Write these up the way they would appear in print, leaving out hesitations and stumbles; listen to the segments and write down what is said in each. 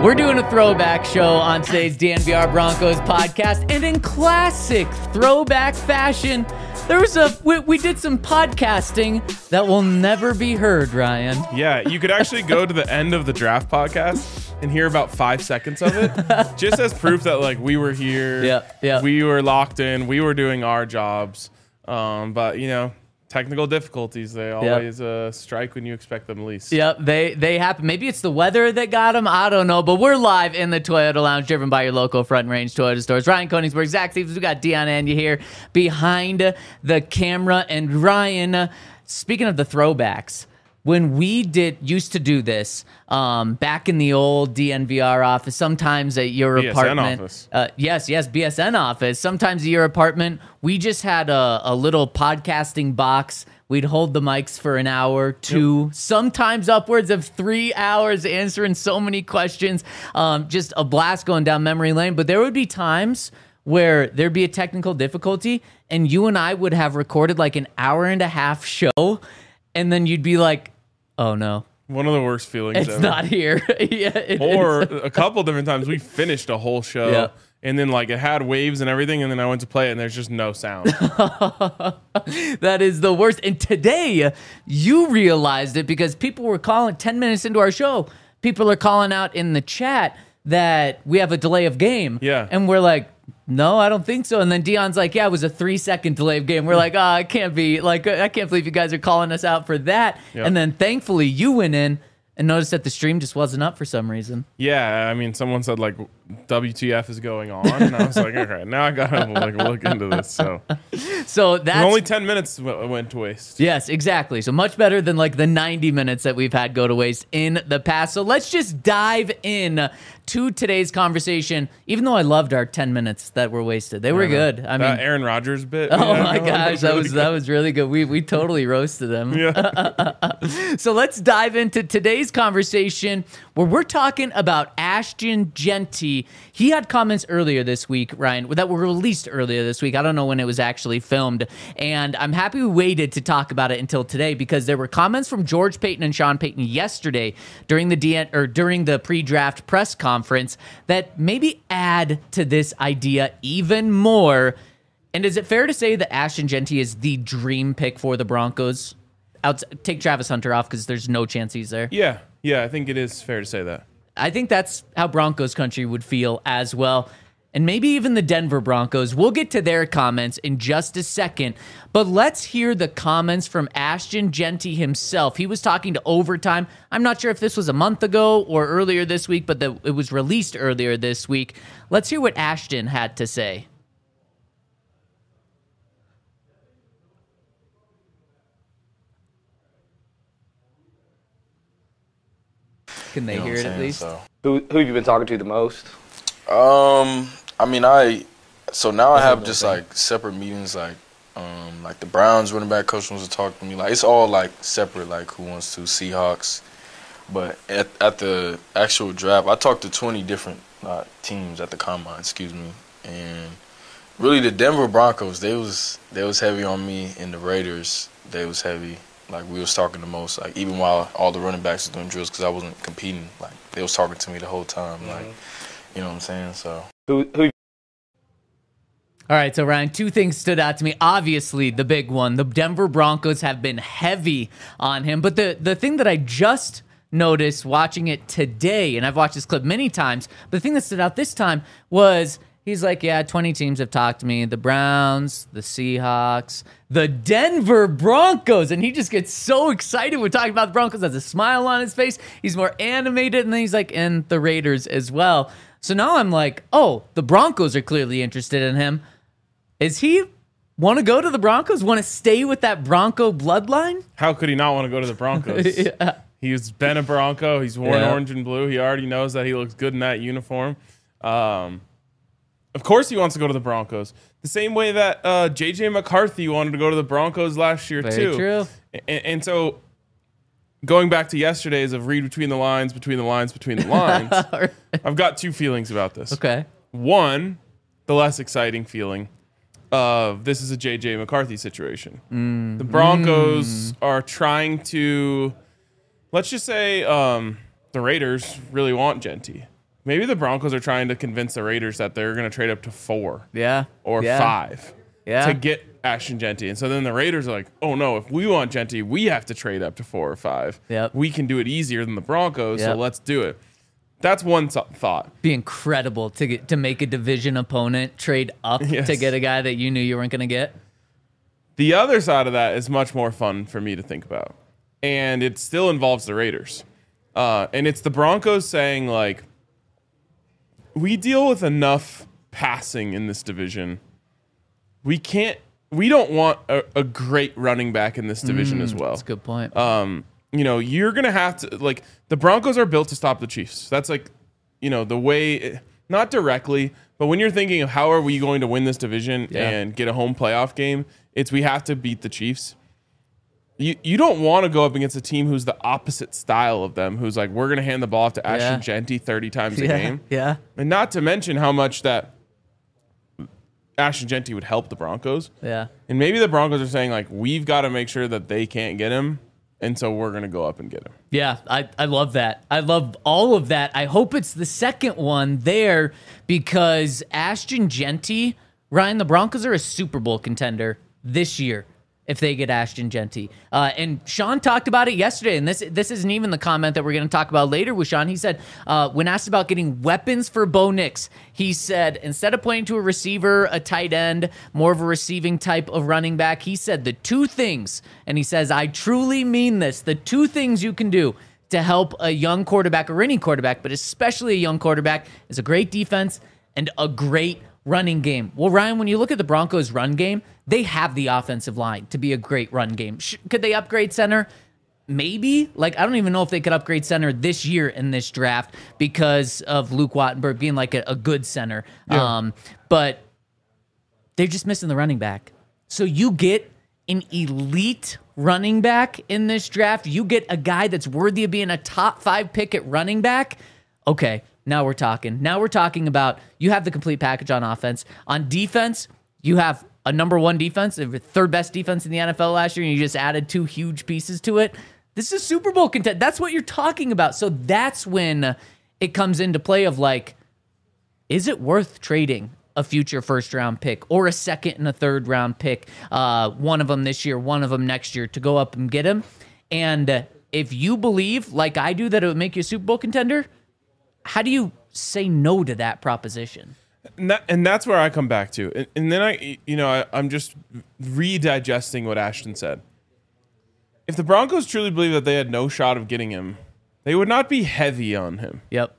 We're doing a throwback show on today's DNVR Broncos podcast, and in classic throwback fashion, there was we did some podcasting that will never be heard, Ryan. Yeah, you could actually go to the end of the draft podcast and hear about 5 seconds of it, just as proof that like we were here, we were locked in, we were doing our jobs. But you know, technical difficulties, they always strike when you expect them least. Yep, they happen. Maybe it's the weather that got them. I don't know. But we're live in the Toyota Lounge, driven by your local Front Range Toyota stores. Ryan Koenigsberg, Zach Stevens. We got Dion Anya here behind the camera. And Ryan, speaking of the throwbacks, when we used to do this back in the old DNVR office, sometimes at your BSN apartment. Office. Yes, BSN office. Sometimes at your apartment, we just had a little podcasting box. We'd hold the mics for an hour, two, sometimes upwards of 3 hours, answering so many questions. Just a blast going down memory lane. But there would be times where there'd be a technical difficulty, and you and I would have recorded like an hour and a half show, and then you'd be like, oh no. One of the worst feelings It's ever. not here. Or a couple different times we finished a whole show and then like it had waves and everything, and then I went to play it and there's just no sound. That is the worst. And today you realized it because people were calling 10 minutes into our show. People are calling out in the chat that we have a delay of game. Yeah. And we're like, no, I don't think so. And then Dion's like, yeah, it was a 3-second delay of game. We're like, oh, it can't be. Like, I can't believe you guys are calling us out for that. Yep. And then thankfully you went in and noticed that the stream just wasn't up for some reason. Yeah, I mean, someone said like WTF is going on, and I was like, okay, now I gotta like look into this. So that's only 10 minutes went to waste. Yes, exactly. So much better than like the 90 minutes that we've had go to waste in the past. So let's just dive in to today's conversation. Even though I loved our 10 minutes that were wasted, they were good. I mean, Aaron Rodgers bit. Oh my gosh, that was really good. We totally roasted them. Yeah. So let's dive into today's conversation where we're talking about Ashton Jeanty. He had comments earlier this week, Ryan, that were released earlier this week. I don't know when it was actually filmed, and I'm happy we waited to talk about it until today because there were comments from George Paton and Sean Payton yesterday during the pre-draft press conference that maybe add to this idea even more. And is it fair to say that Ashton Jeanty is the dream pick for the Broncos? Take Travis Hunter off because there's no chance he's there. Yeah, I think it is fair to say that. I think that's how Broncos country would feel as well. And maybe even the Denver Broncos. We'll get to their comments in just a second. But let's hear the comments from Ashton Jeanty himself. He was talking to Overtime. I'm not sure if this was a month ago or earlier this week, but it was released earlier this week. Let's hear what Ashton had to say. Can they hear it at least? So. Who have you been talking to the most? I mean, so now I have just like separate meetings, like the Browns running back coach wants to talk to me. Like it's all like separate, like who wants to, Seahawks. But at the actual draft, I talked to 20 different teams at the combine, and really the Denver Broncos, they was heavy on me, and the Raiders, they was heavy. Like we was talking the most, like even while all the running backs was doing drills, because I wasn't competing. Like they was talking to me the whole time, like you know what I'm saying. So Who? All right, so Ryan, two things stood out to me. Obviously, the big one, the Denver Broncos have been heavy on him. But the thing that I just noticed watching it today, and I've watched this clip many times, but the thing that stood out this time was he's like, yeah, 20 teams have talked to me. The Browns, the Seahawks, the Denver Broncos. And he just gets so excited when talking about the Broncos, has a smile on his face. He's more animated, and then he's like, and the Raiders as well. So now I'm like, oh, the Broncos are clearly interested in him. Is he want to go to the Broncos? Want to stay with that Bronco bloodline? How could he not want to go to the Broncos? Yeah. He's been a Bronco. He's worn orange and blue. He already knows that he looks good in that uniform. Of course he wants to go to the Broncos. The same way that J.J. McCarthy wanted to go to the Broncos last year, Very too. true. And so going back to yesterday's of read between the lines, I've got two feelings about this. Okay. One, the less exciting feeling of this is a J.J. McCarthy situation. The Broncos are trying to, let's just say the Raiders really want Jeanty. maybe the Broncos are trying to convince the Raiders that they're going to trade up to 4 or 5 to get Ashton Jeanty. And so then the Raiders are like, oh, no, if we want Jeanty, we have to trade up to 4 or 5. We can do it easier than the Broncos, so let's do it. That's one thought. Be incredible to make a division opponent trade up to get a guy that you knew you weren't going to get. The other side of that is much more fun for me to think about. And it still involves the Raiders. And it's the Broncos saying, like, we deal with enough passing in this division. We don't want a great running back in this division as well. That's a good point. You're going to have to, like, the Broncos are built to stop the Chiefs. That's like, the way, not directly, but when you're thinking of how are we going to win this division and get a home playoff game, it's we have to beat the Chiefs. You don't want to go up against a team who's the opposite style of them, who's like, we're going to hand the ball off to Ashton Jeanty 30 times a game. And not to mention how much that Ashton Jeanty would help the Broncos. And maybe the Broncos are saying, like, we've got to make sure that they can't get him, and so we're going to go up and get him. Yeah, I love that. I love all of that. I hope it's the second one there because Ashton Jeanty, Ryan, the Broncos are a Super Bowl contender this year if they get Ashton Jeanty. And Sean talked about it yesterday, and this isn't even the comment that we're going to talk about later with Sean. He said, when asked about getting weapons for Bo Nix, he said, instead of pointing to a receiver, a tight end, more of a receiving type of running back, he said the 2 things, and he says, I truly mean this, the 2 things you can do to help a young quarterback or any quarterback, but especially a young quarterback, is a great defense and a great running game. Well, Ryan, when you look at the Broncos' run game, they have the offensive line to be a great run game. Could they upgrade center? Maybe. Like, I don't even know if they could upgrade center this year in this draft because of Luke Wattenberg being like a good center. But they're just missing the running back. So you get an elite running back in this draft. You get a guy that's worthy of being a top 5 pick at running back. Okay. Now we're talking. Now we're talking about you have the complete package on offense. On defense, you have a number 1 defense, the 3rd best defense in the NFL last year, and you just added 2 huge pieces to it. This is Super Bowl content. That's what you're talking about. So that's when it comes into play of like, is it worth trading a future first-round pick or a second and a third-round pick, one of them this year, one of them next year, to go up and get him? And if you believe, like I do, that it would make you a Super Bowl contender, how do you say no to that proposition? And that's where I come back to. And then I'm just redigesting what Ashton said. If the Broncos truly believe that they had no shot of getting him, they would not be heavy on him.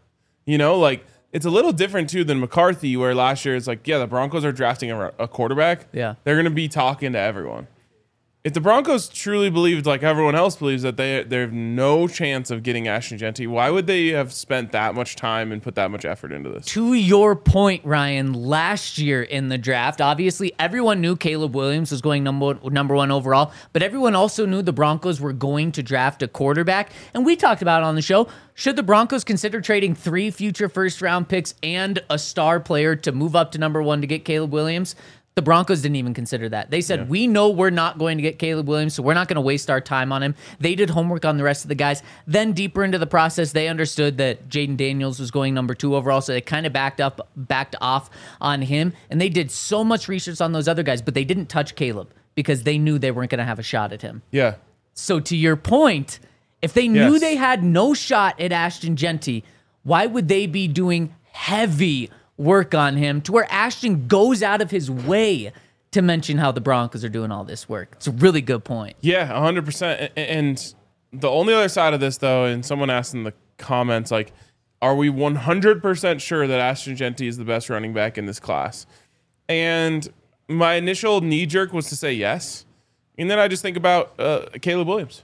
Like, it's a little different too than McCarthy, where last year it's like, the Broncos are drafting a quarterback. They're going to be talking to everyone. If the Broncos truly believed, like everyone else believes, that they have no chance of getting Ashton Jeanty, why would they have spent that much time and put that much effort into this? To your point, Ryan, last year in the draft, obviously everyone knew Caleb Williams was going number 1 overall, but everyone also knew the Broncos were going to draft a quarterback. And we talked about it on the show. Should the Broncos consider trading 3 future first-round picks and a star player to move up to number 1 to get Caleb Williams? The Broncos didn't even consider that. They said, we know we're not going to get Caleb Williams, so we're not going to waste our time on him. They did homework on the rest of the guys. Then deeper into the process, they understood that Jaden Daniels was going number 2 overall, so they kind of backed off on him. And they did so much research on those other guys, but they didn't touch Caleb because they knew they weren't going to have a shot at him. So to your point, if they knew they had no shot at Ashton Jeanty, why would they be doing heavy work on him to where Ashton goes out of his way to mention how the Broncos are doing all this work? It's a really good point. 100%. And the only other side of this, though, and someone asked in the comments, like, are we 100% sure that Ashton Jeanty is the best running back in this class? And my initial knee jerk was to say yes. And then I just think about Caleb Williams.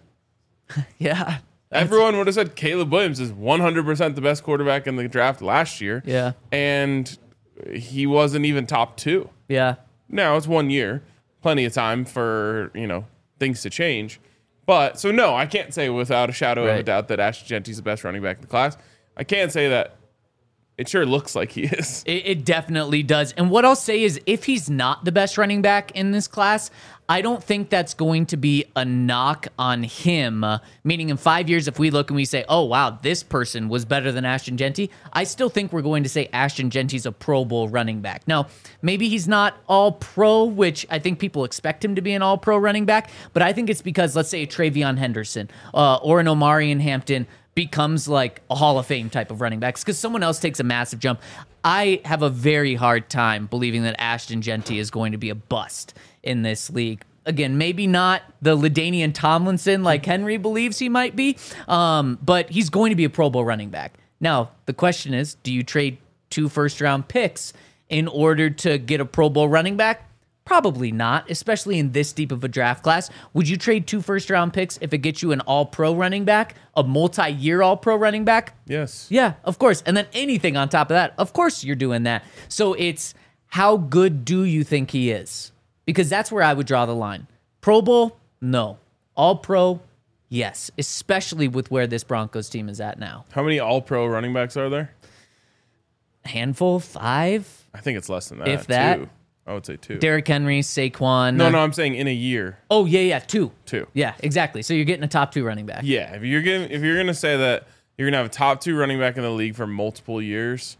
Everyone would have said Caleb Williams is 100% the best quarterback in the draft last year. And he wasn't even top 2. Now it's 1 year, plenty of time for, things to change. But so no, I can't say without a shadow of a doubt that Ashton Jeanty's the best running back in the class. I can't say that it sure looks like he is. It definitely does. And what I'll say is, if he's not the best running back in this class, I don't think that's going to be a knock on him. Meaning in 5 years, if we look and we say, oh, wow, this person was better than Ashton Jeanty, I still think we're going to say Ashton Jeanty's a Pro Bowl running back. Now, maybe he's not all pro, which I think people expect him to be an all pro running back, but I think it's because, let's say, Travion Henderson or an Omarion Hampton becomes like a Hall of Fame type of running backs because someone else takes a massive jump. I have a very hard time believing that Ashton Jeanty is going to be a bust in this league. Again, maybe not the LaDainian Tomlinson like Henry believes he might be, but he's going to be a Pro Bowl running back. Now, the question is, do you trade 2 first-round picks in order to get a Pro Bowl running back? Probably not, especially in this deep of a draft class. Would you trade 2 first-round picks if it gets you an all-pro running back, a multi-year all-pro running back? Yes. Yeah, of course. And then anything on top of that, of course you're doing that. So it's how good do you think he is? Because that's where I would draw the line. Pro Bowl? No. All-pro? Yes. Especially with where this Broncos team is at now. How many all-pro running backs are there? Handful? 5? I think it's less than that. If that. 2. I would say 2. Derrick Henry, Saquon. No, I'm saying in a year. Oh, yeah, 2. 2. Yeah, exactly. So you're getting a top 2 running back. Yeah, if you're gonna say that you're gonna have a top 2 running back in the league for multiple years,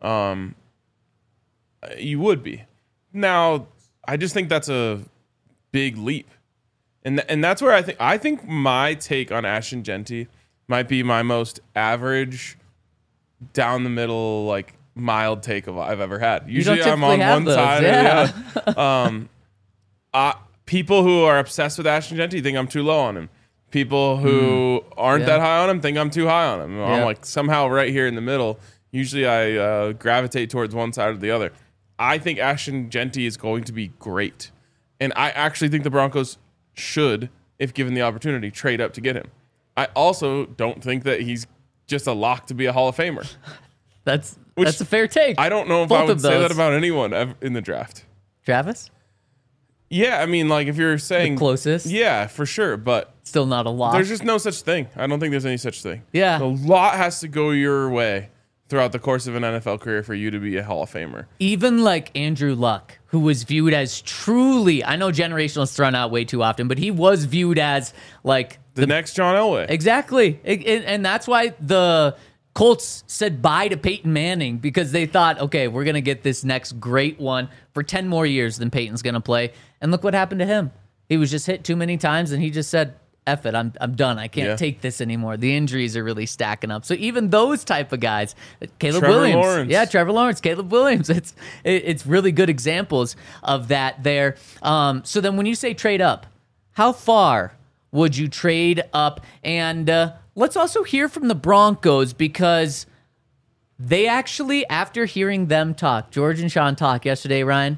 you would be. Now, I just think that's a big leap, and that's where I think my take on Ashton Jeanty might be my most average, down the middle, like mild take I've ever had. Usually I'm on one side or the other. People who are obsessed with Ashton Jeanty think I'm too low on him. People who aren't that high on him think I'm too high on him. I'm like somehow right here in the middle. Usually I gravitate towards one side or the other. I think Ashton Jeanty is going to be great. And I actually think the Broncos should, if given the opportunity, trade up to get him. I also don't think that he's just a lock to be a Hall of Famer. That's a fair take. I don't know if I would say that about anyone in the draft. Travis? Yeah, I mean, like if you're saying the closest. Yeah, for sure, but still not a lot. There's just no such thing. I don't think there's any such thing. Yeah. A lot has to go your way throughout the course of an NFL career for you to be a Hall of Famer. Even like Andrew Luck, who was viewed as truly, I know generational is thrown out way too often, but he was viewed as like the next John Elway. Exactly. And that's why the Colts said bye to Peyton Manning, because they thought, okay, we're going to get this next great one for 10 more years than Peyton's going to play. And look what happened to him. He was just hit too many times, and he just said, F it, I'm done. I can't take this anymore. The injuries are really stacking up. So even those type of guys, Caleb Williams. Lawrence. Yeah, Trevor Lawrence, Caleb Williams. It's really good examples of that there. So then when you say trade up, how far would you trade up? And let's also hear from the Broncos, because they actually, after hearing them talk, George and Sean talk yesterday, Ryan,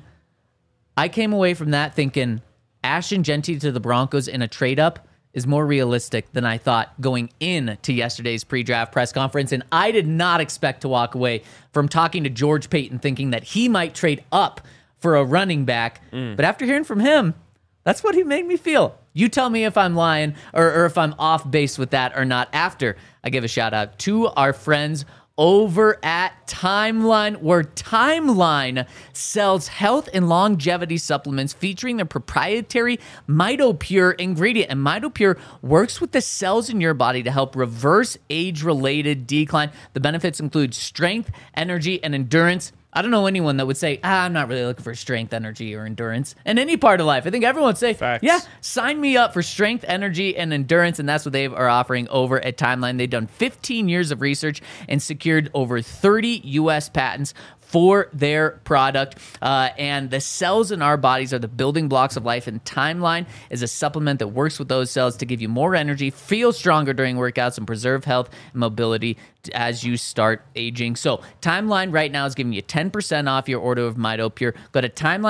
I came away from that thinking Ashton Jeanty to the Broncos in a trade up is more realistic than I thought going into yesterday's pre-draft press conference. And I did not expect to walk away from talking to George Paton thinking that he might trade up for a running back. But after hearing from him, that's what he made me feel. You tell me if I'm lying or if I'm off base with that or not after I give a shout out to our friends over at Timeline, where Timeline sells health and longevity supplements featuring their proprietary MitoPure ingredient. And MitoPure works with the cells in your body to help reverse age-related decline. The benefits include strength, energy, and endurance. I don't know anyone that would say, I'm not really looking for strength, energy, or endurance in any part of life. I think everyone would say, facts. Yeah, sign me up for strength, energy, and endurance. And that's what they are offering over at Timeline. They've done 15 years of research and secured over 30 U.S. patents for their product. And the cells in our bodies are the building blocks of life, and Timeline is a supplement that works with those cells to give you more energy, feel stronger during workouts, and preserve health and mobility as you start aging. So Timeline right now is giving you 10% off your order of MitoPure. Go to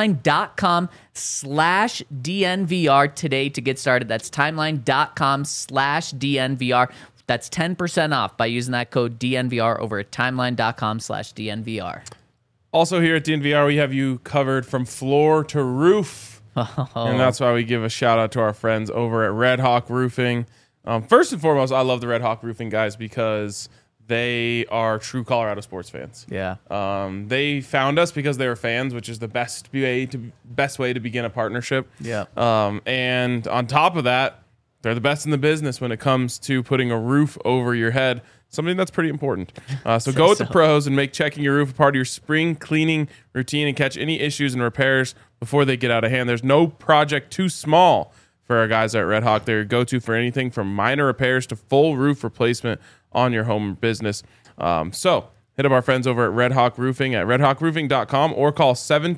timeline.com/DNVR today to get started. That's timeline.com/DNVR. That's 10% off by using that code DNVR over at timeline.com/DNVR. Also here at DNVR, we have you covered from floor to roof. And that's why we give a shout out to our friends over at Red Hawk Roofing. First and foremost, I love the Red Hawk Roofing guys because They are true Colorado sports fans. Yeah. They found us because they were fans, which is the best way to begin a partnership. Yeah. And on top of that, they're the best in the business when it comes to putting a roof over your head. Something that's pretty important. So go with the pros and make checking your roof a part of your spring cleaning routine and catch any issues and repairs before they get out of hand. There's no project too small for our guys at Red Hawk. They're your go-to for anything from minor repairs to full roof replacement on your home business. So hit up our friends over at Red Hawk Roofing at redhawkroofing.com or call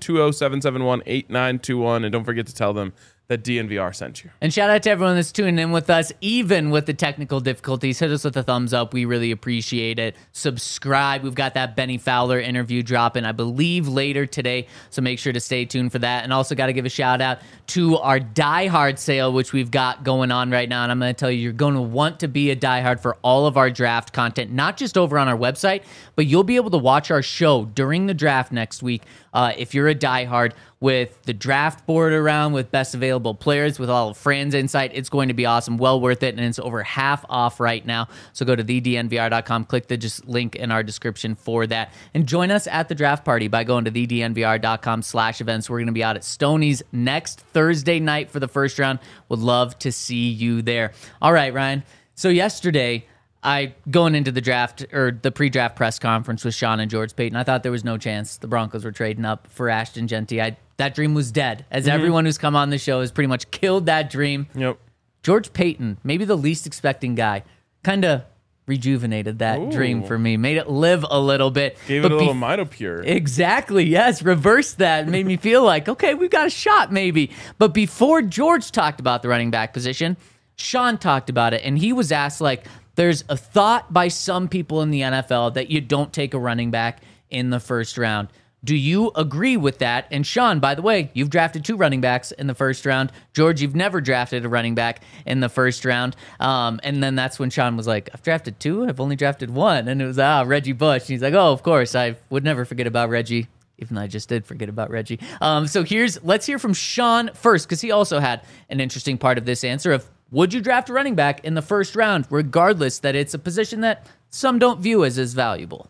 720-771-8921. And don't forget to tell them that DNVR sent you. And shout out to everyone that's tuning in with us, even with the technical difficulties. Hit us with a thumbs up. We really appreciate it. Subscribe. We've got that Benny Fowler interview dropping, I believe, later today. So make sure to stay tuned for that. And also got to give a shout out to our Die Hard sale, which we've got going on right now. And I'm going to tell you, you're going to want to be a Die Hard for all of our draft content, not just over on our website, but you'll be able to watch our show during the draft next week. If you're a Die Hard, with the draft board around, with best available players, with all of Fran's insight, it's going to be awesome. Well worth it, and it's over half off right now. So go to thednvr.com, click the link in our description for that, and join us at the draft party by going to thednvr.com/events. We're going to be out at Stoney's next Thursday night for the first round. Would love to see you there. All right, Ryan. So yesterday, going into the draft or the pre-draft press conference with Sean and George Paton, I thought there was no chance the Broncos were trading up for Ashton Jeanty. That dream was dead, as everyone who's come on the show has pretty much killed that dream. Yep. George Paton, maybe the least expecting guy, kind of rejuvenated that dream for me, made it live a little bit. Gave it a little Mitopure. Exactly, yes. Reversed that. Made me feel like, okay, we've got a shot maybe. But before George talked about the running back position, Sean talked about it, and he was asked, like, there's a thought by some people in the NFL that you don't take a running back in the first round. Do you agree with that? And Sean, by the way, you've drafted 2 running backs in the first round. George, you've never drafted a running back in the first round. And then that's when Sean was like, I've drafted 2? I've only drafted 1. And it was, Reggie Bush. And he's like, oh, of course, I would never forget about Reggie, even though I just did forget about Reggie. So let's hear from Sean first, because he also had an interesting part of this answer of, would you draft a running back in the first round, regardless that it's a position that some don't view as valuable?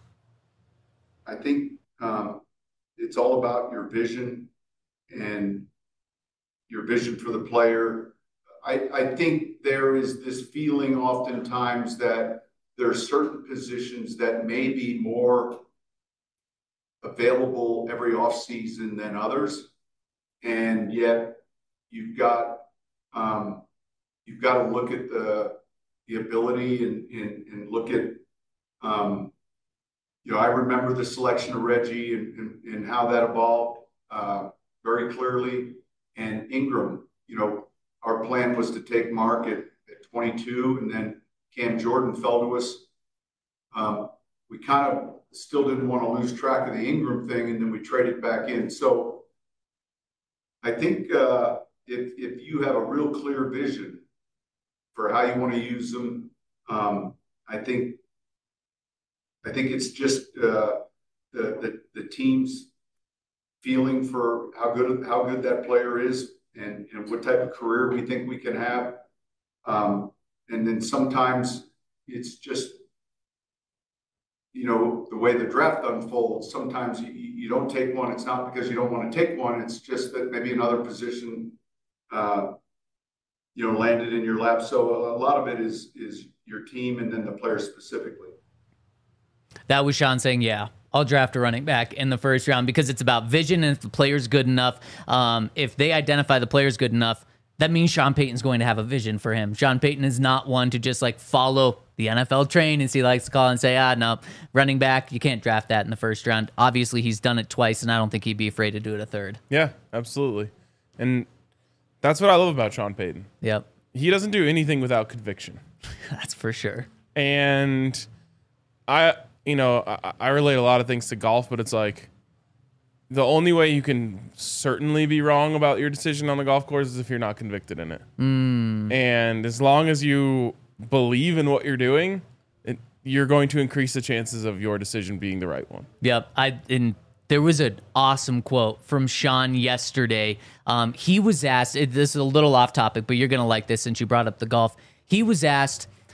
I think it's all about your vision and your vision for the player. I think there is this feeling oftentimes that there are certain positions that may be more available every offseason than others. And yet you've got to look at the ability and look at, I remember the selection of Reggie and how that evolved very clearly. And Ingram, our plan was to take Mark at 22, and then Cam Jordan fell to us. We kind of still didn't want to lose track of the Ingram thing, and then we traded back in. So I think if you have a real clear vision for how you want to use them, I think it's just the team's feeling for how good that player is and what type of career we think we can have. And then sometimes it's just, the way the draft unfolds, sometimes you don't take one. It's not because you don't want to take one. It's just that maybe another position, landed in your lap. So a lot of it is your team and then the player specifically. That was Sean saying, yeah, I'll draft a running back in the first round because it's about vision, and if the player's good enough, if they identify the player's good enough, that means Sean Payton's going to have a vision for him. Sean Payton is not one to just follow the NFL train, as he likes to call and say, no, running back, you can't draft that in the first round. Obviously, he's done it twice, and I don't think he'd be afraid to do it a third. Yeah, absolutely. And that's what I love about Sean Payton. Yep. He doesn't do anything without conviction. That's for sure. And I relate a lot of things to golf, but it's like the only way you can certainly be wrong about your decision on the golf course is if you're not convicted in it. And as long as you believe in what you're doing, you're going to increase the chances of your decision being the right one. Yep. There was an awesome quote from Sean yesterday. He was asked, this is a little off topic, but you're going to like this since you brought up the golf. He was asked,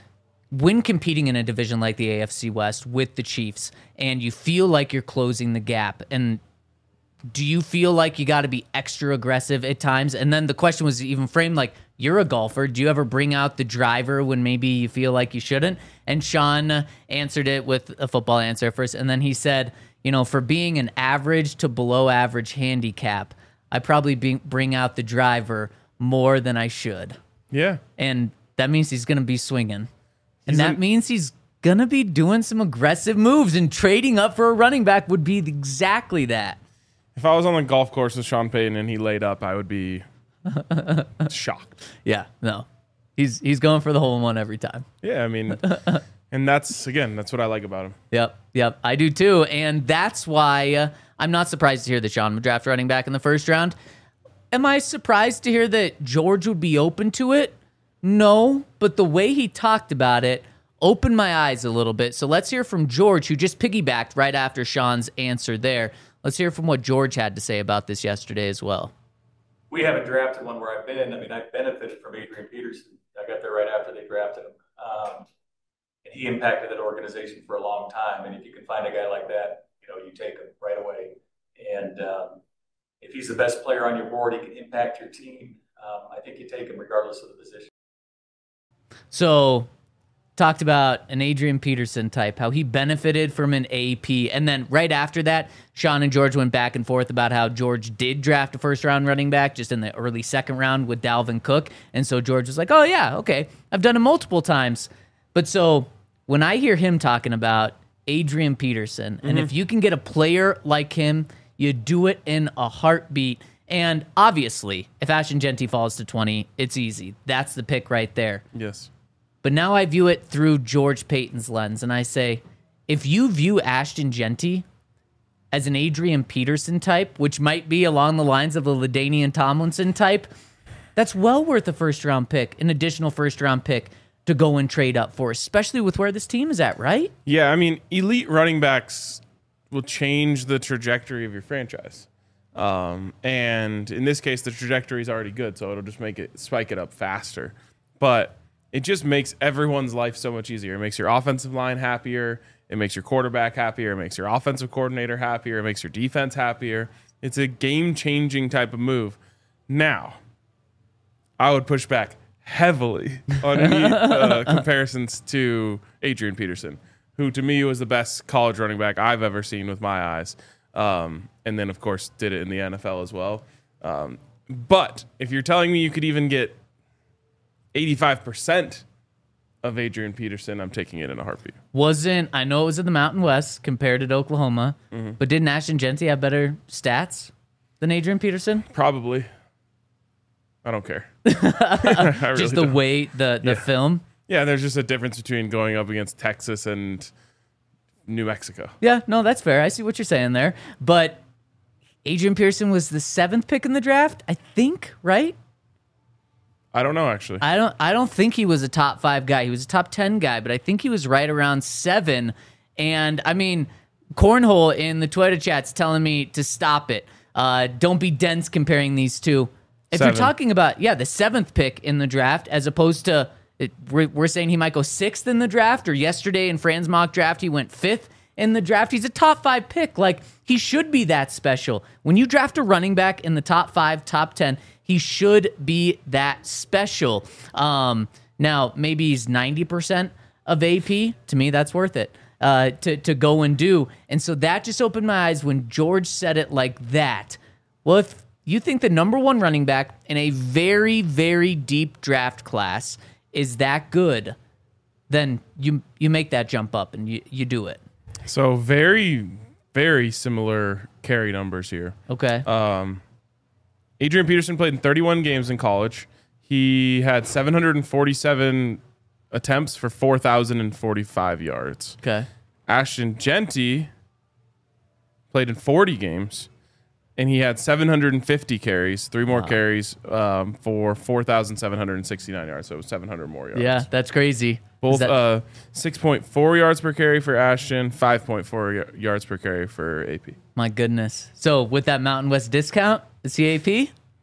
when competing in a division like the AFC West with the Chiefs and you feel like you're closing the gap, and do you feel like you got to be extra aggressive at times? And then the question was even framed like, you're a golfer. Do you ever bring out the driver when maybe you feel like you shouldn't? And Sean answered it with a football answer first. And then he said, for being an average to below average handicap, I probably bring out the driver more than I should. Yeah. And that means he's going to be swinging. And that means he's going to be doing some aggressive moves, and trading up for a running back would be exactly that. If I was on the golf course with Sean Payton and he laid up, I would be shocked. Yeah, no. He's going for the hole in one every time. Yeah, I mean, and that's what I like about him. Yep, I do too. And that's why I'm not surprised to hear that Sean would draft running back in the first round. Am I surprised to hear that George would be open to it? No, but the way he talked about it opened my eyes a little bit. So let's hear from George, who just piggybacked right after Sean's answer there. Let's hear from what George had to say about this yesterday as well. We haven't drafted one where I've been. I mean, I benefited from Adrian Peterson. I got there right after they drafted him. And he impacted that organization for a long time. And if you can find a guy like that, you take him right away. And if he's the best player on your board, he can impact your team. I think you take him regardless of the position. So, talked about an Adrian Peterson type, how he benefited from an AP. And then right after that, Sean and George went back and forth about how George did draft a first-round running back just in the early second round with Dalvin Cook. And so George was like, oh, yeah, okay, I've done it multiple times. But so when I hear him talking about Adrian Peterson, and if you can get a player like him, you do it in a heartbeat. And obviously, if Ashton Jeanty falls to 20, it's easy. That's the pick right there. Yes. But now I view it through George Payton's lens, and I say, if you view Ashton Jeanty as an Adrian Peterson type, which might be along the lines of a LaDainian Tomlinson type, that's well worth a first-round pick, an additional first-round pick to go and trade up for, especially with where this team is at, right? Yeah, I mean, elite running backs will change the trajectory of your franchise. And in this case, the trajectory is already good, so it'll just spike it up faster. But it just makes everyone's life so much easier. It makes your offensive line happier. It makes your quarterback happier. It makes your offensive coordinator happier. It makes your defense happier. It's a game-changing type of move. Now, I would push back heavily on any comparisons to Adrian Peterson, who to me was the best college running back I've ever seen with my eyes. And then, of course, did it in the NFL as well. But if you're telling me you could even get 85% of Adrian Peterson, I'm taking it in a heartbeat. I know it was in the Mountain West compared to Oklahoma, but didn't Ashton Jeanty have better stats than Adrian Peterson? Probably. I don't care. I really just the don't. way, the film? Yeah, there's just a difference between going up against Texas and New Mexico. Yeah, no, that's fair. I see what you're saying there. But Adrian Peterson was the 7th pick in the draft, I think, right? I don't know, actually. I don't think he was a top 5 guy. He was a top 10 guy, but I think he was right around 7. And, I mean, Cornhole in the Twitter chat's telling me to stop it. Don't be dense comparing these two. If 7. you're talking about, the 7th pick in the draft, as opposed to, we're saying he might go 6th in the draft, or yesterday in Fran's mock draft, he went 5th in the draft. He's a top 5 pick. Like, he should be that special. When you draft a running back in the top 5, top 10, he should be that special. Now, maybe he's 90% of AP. To me, that's worth it to go and do. And so that just opened my eyes when George said it like that. Well, if you think the number 1 running back in a very, very deep draft class is that good, then you make that jump up and you do it. So very, very similar carry numbers here. Okay. Adrian Peterson played in 31 games in college. He had 747 attempts for 4,045 yards. Okay. Ashton Jeanty played in 40 games, and he had 750 carries, 3 more carries for 4,769 yards. So it was 700 more yards. Yeah, that's crazy. Both 6.4 yards per carry for Ashton, 5.4 yards per carry for AP. My goodness. So with that Mountain West discount, is he AP?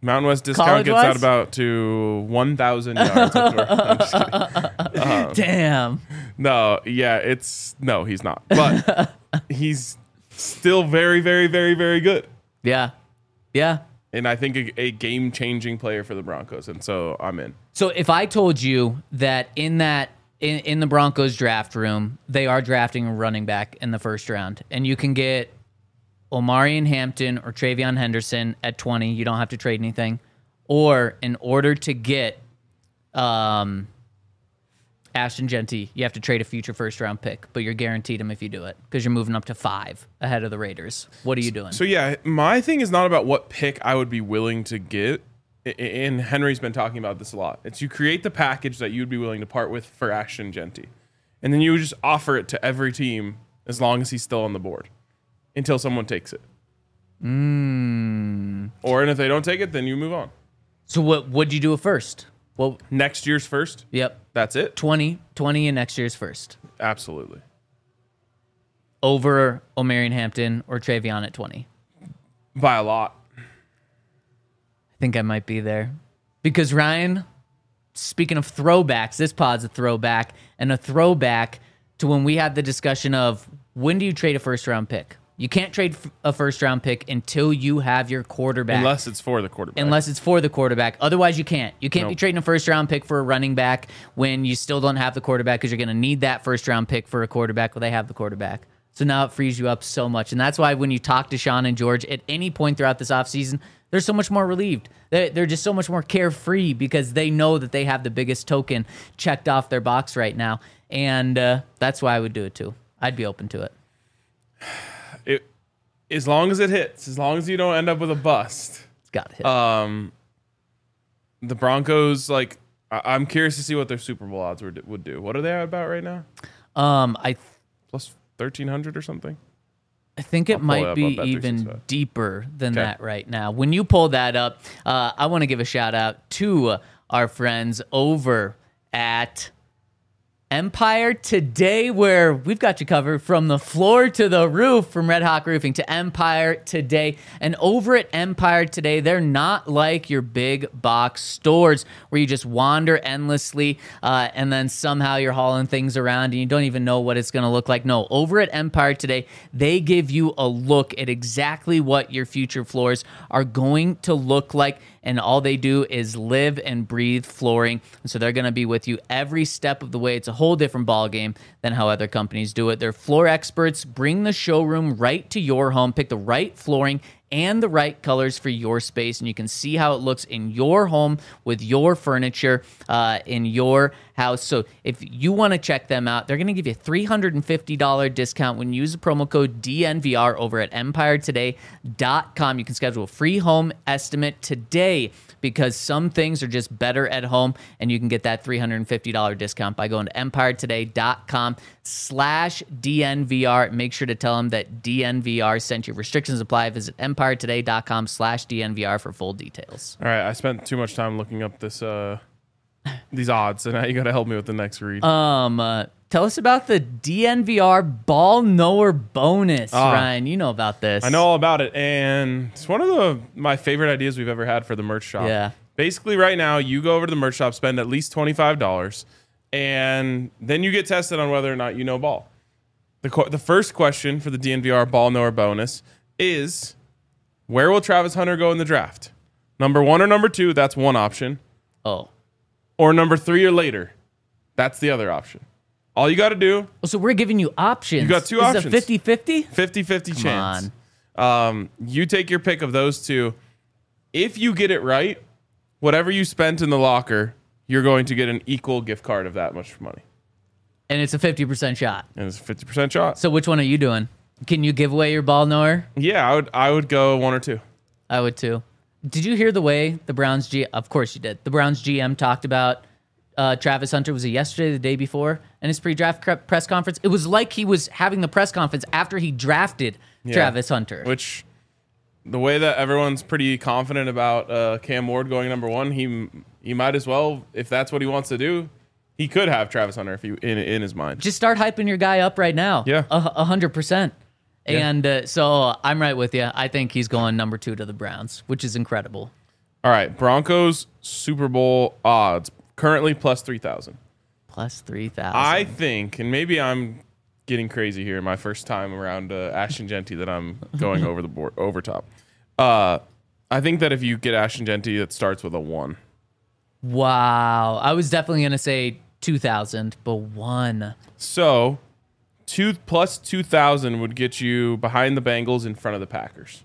Mountain West discount gets out about to 1,000 yards. I'm just kidding. Damn. No, yeah, no, he's not. But he's still very, very, very, very good. Yeah. Yeah. And I think a game-changing player for the Broncos, and so I'm in. So if I told you that in the Broncos draft room, they are drafting a running back in the first round, and you can get Omarion Hampton or Travion Henderson at 20, you don't have to trade anything. Or in order to get Ashton Jeanty, you have to trade a future first-round pick, but you're guaranteed him if you do it because you're moving up to 5 ahead of the Raiders. What are you doing? So, yeah, my thing is not about what pick I would be willing to get, and Henry's been talking about this a lot. It's you create the package that you'd be willing to part with for Ashton Jeanty, and then you would just offer it to every team as long as he's still on the board until someone takes it. Or and if they don't take it, then you move on. So what would you do at first? Well, next year's first? Yep. That's it? 20 in next year's first. Absolutely. Over Omarion Hampton or Travion at 20? By a lot. I think I might be there. Because Ryan, speaking of throwbacks, this pod's a throwback, and a throwback to when we had the discussion of when do you trade a first-round pick? You can't trade a first-round pick until you have your quarterback. Unless it's for the quarterback. Otherwise, you can't. You can't be trading a first-round pick for a running back when you still don't have the quarterback because you're going to need that first-round pick for a quarterback when they have the quarterback. So now it frees you up so much. And that's why when you talk to Sean and George at any point throughout this offseason, they're so much more relieved. They're just so much more carefree because they know that they have the biggest token checked off their box right now. And that's why I would do it too. I'd be open to it. As long as it hits, as long as you don't end up with a bust. It's got to hit. The Broncos, I'm curious to see what their Super Bowl odds would do. What are they at about right now? Plus 1,300 or something? I think it might be even deeper than that right now. When you pull that up, I want to give a shout out to our friends over at Empire Today, where we've got you covered from the floor to the roof, from Red Hawk Roofing to Empire Today. And over at Empire Today, they're not like your big box stores where you just wander endlessly and then somehow you're hauling things around and you don't even know what it's going to look like. No, over at Empire Today, they give you a look at exactly what your future floors are going to look like. And all they do is live and breathe flooring. And so they're going to be with you every step of the way. It's a whole different ballgame than how other companies do it. They're floor experts. Bring the showroom right to your home. Pick the right flooring and the right colors for your space, and you can see how it looks in your home with your furniture in your house. So if you want to check them out, they're going to give you a $350 discount when you use the promo code DNVR over at EmpireToday.com. You can schedule a free home estimate today because some things are just better at home, and you can get that $350 discount by going to EmpireToday.com/DNVR. Make sure to tell them that DNVR sent you. Restrictions apply. Visit EmpireToday.com/DNVR for full details. All right, I spent too much time looking up these odds, and now you got to help me with the next read. Tell us about the DNVR Ball Knower bonus, Ryan. You know about this. I know all about it, and it's one of my favorite ideas we've ever had for the merch shop. Yeah. Basically, right now, you go over to the merch shop, spend at least $25, and then you get tested on whether or not you know ball. The first question for the DNVR Ball Knower bonus is, where will Travis Hunter go in the draft? Number 1 or number 2, that's one option. Oh. Or number 3 or later. That's the other option. All you got to do... So we're giving you options. You got two options. Is it 50-50? 50-50 chance. Come on. You take your pick of those two. If you get it right, whatever you spent in the locker, you're going to get an equal gift card of that much money. And it's a 50% shot. And it's a 50% shot. So which one are you doing? Can you give away your Ball Knower? Yeah, I would go 1 or 2. I would too. Did you hear the way the Browns GM... Of course you did. The Browns GM talked about Travis Hunter. Was it yesterday, the day before, in his pre-draft press conference? It was like he was having the press conference after he drafted Travis Hunter. Which, the way that everyone's pretty confident about Cam Ward going number 1, he might as well, if that's what he wants to do, he could have Travis Hunter if in his mind. Just start hyping your guy up right now. Yeah. 100%. And so I'm right with you. I think he's going number 2 to the Browns, which is incredible. All right, Broncos Super Bowl odds currently plus 3,000. Plus 3,000. I think, and maybe I'm getting crazy here, my first time around Ashton Jeanty that I'm going over the board over top. I think that if you get Ashton Jeanty, it starts with a 1. Wow. I was definitely going to say 2,000, but 1. So, 2 plus 2,000 would get you behind the Bengals in front of the Packers.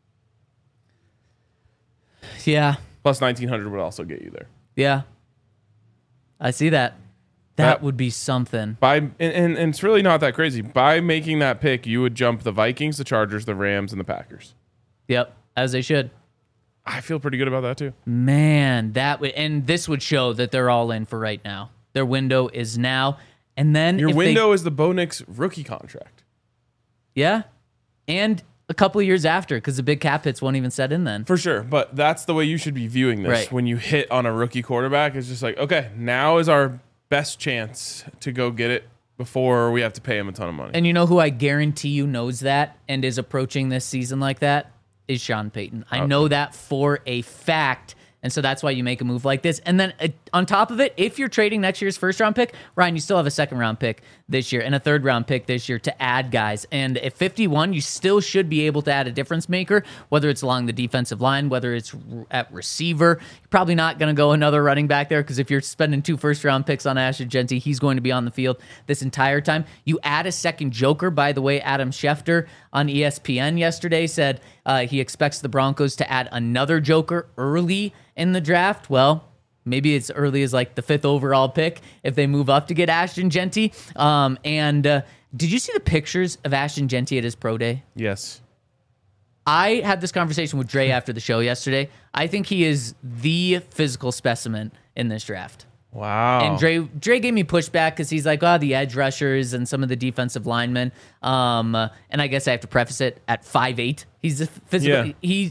Yeah. Plus 1,900 would also get you there. Yeah. I see that. That would be something. And it's really not that crazy. By making that pick, you would jump the Vikings, the Chargers, the Rams, and the Packers. Yep, as they should. I feel pretty good about that too. Man, and this would show that they're all in for right now. Their window is now. And then your window is the Bo Nix rookie contract. Yeah. And a couple of years after, because the big cap hits won't even set in then. For sure. But that's the way you should be viewing this. Right. When you hit on a rookie quarterback, it's just like, okay, now is our best chance to go get it before we have to pay him a ton of money. And you know who I guarantee you knows that and is approaching this season like that? Is Sean Payton. I know that for a fact. And so that's why you make a move like this. And then on top of it, if you're trading next year's first-round pick, Ryan, you still have a second-round pick this year and a third-round pick this year to add guys. And at 51, you still should be able to add a difference maker, whether it's along the defensive line, whether it's at receiver. You're probably not going to go another running back there because if you're spending 2 first-round picks on Ashton Jeanty, he's going to be on the field this entire time. You add a second joker. By the way, Adam Schefter on ESPN yesterday said he expects the Broncos to add another joker early in the draft. Well, maybe it's early as like the 5th overall pick if they move up to get Ashton Jeanty. Did you see the pictures of Ashton Jeanty at his pro day? Yes. I had this conversation with Dre after the show yesterday. I think he is the physical specimen in this draft. Wow. And Dre gave me pushback because he's like, the edge rushers and some of the defensive linemen. And I guess I have to preface it at 5'8". He's a physical. Yeah.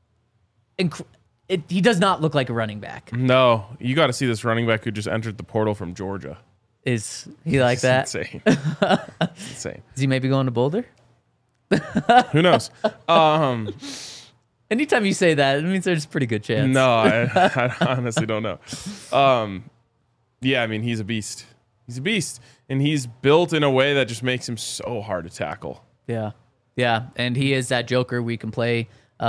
He does not look like a running back. No, you got to see this running back who just entered the portal from Georgia. Is he like that? Insane. Insane. Is he maybe going to Boulder? Who knows? Anytime you say that, it means there's a pretty good chance. No, I honestly don't know. Yeah, I mean, he's a beast. He's a beast. And he's built in a way that just makes him so hard to tackle. Yeah. Yeah. And he is that joker we can play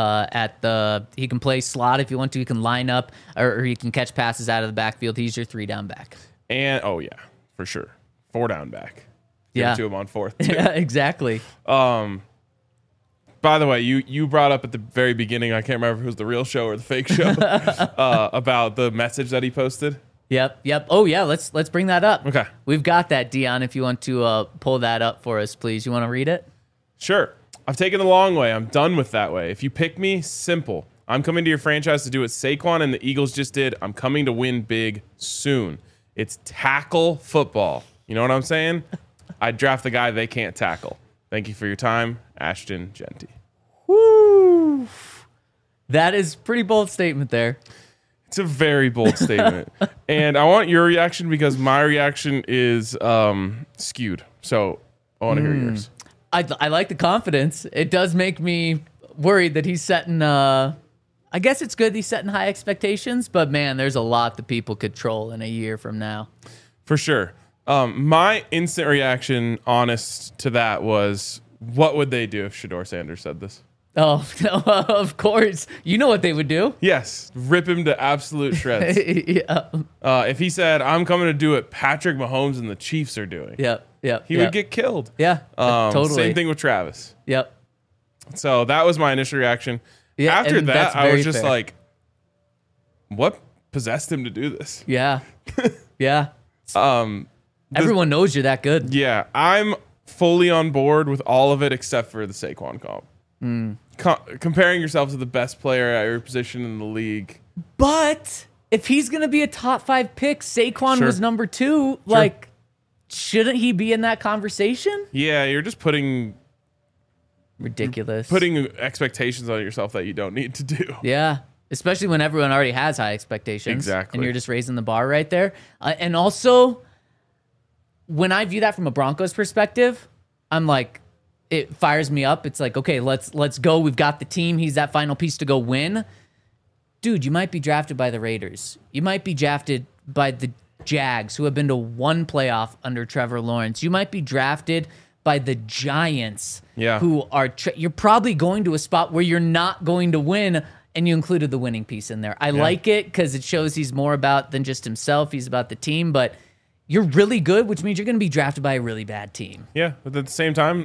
he can play slot if you want to. He can line up or he can catch passes out of the backfield. He's your 3-down back. And, yeah, for sure. 4-down back. Give it to him on 4th. Too. Yeah, exactly. By the way, you brought up at the very beginning, I can't remember if it was the real show or the fake show, about the message that he posted. Yep. Oh, yeah, let's bring that up. Okay. We've got that, Dion, if you want to pull that up for us, please. You want to read it? Sure. I've taken the long way. I'm done with that way. If you pick me, simple. I'm coming to your franchise to do what Saquon and the Eagles just did. I'm coming to win big soon. It's tackle football. You know what I'm saying? I'd draft the guy they can't tackle. Thank you for your time, Ashton Jeanty. Woo! That is a pretty bold statement there. It's a very bold statement. And I want your reaction because my reaction is skewed. So I want to hear yours. I like the confidence. It does make me worried that he's setting, I guess it's good he's setting high expectations, but man, there's a lot that people could troll in a year from now. For sure. My instant reaction, honest to that, was what would they do if Shedeur Sanders said this? Oh, of course. You know what they would do. Yes. Rip him to absolute shreds. Yeah. If he said, I'm coming to do what Patrick Mahomes and the Chiefs are doing. Yep. He would get killed. Yeah. Totally. Same thing with Travis. Yep. So that was my initial reaction. Yeah, after that, I was just fair. like, what possessed him to do this? Yeah. Yeah. Everyone knows you're that good. Yeah. I'm fully on board with all of it except for the Saquon comp. Comparing yourself to the best player at your position in the league. But if he's going to be a top 5 pick, Saquon was number 2. Sure. Shouldn't he be in that conversation? Yeah, you're just putting expectations on yourself that you don't need to do. Yeah, especially when everyone already has high expectations. Exactly. And you're just raising the bar right there. And also, when I view that from a Broncos perspective, I'm like, it fires me up. It's like, okay, let's go. We've got the team. He's that final piece to go win. dude, you might be drafted by the Raiders. You might be drafted by the Jags, who have been to one playoff under Trevor Lawrence. You might be drafted by the Giants, who are you're probably going to a spot where you're not going to win, and you included the winning piece in there. I like it because it shows he's more about than just himself. He's about the team, but you're really good, which means you're going to be drafted by a really bad team. Yeah, but at the same time,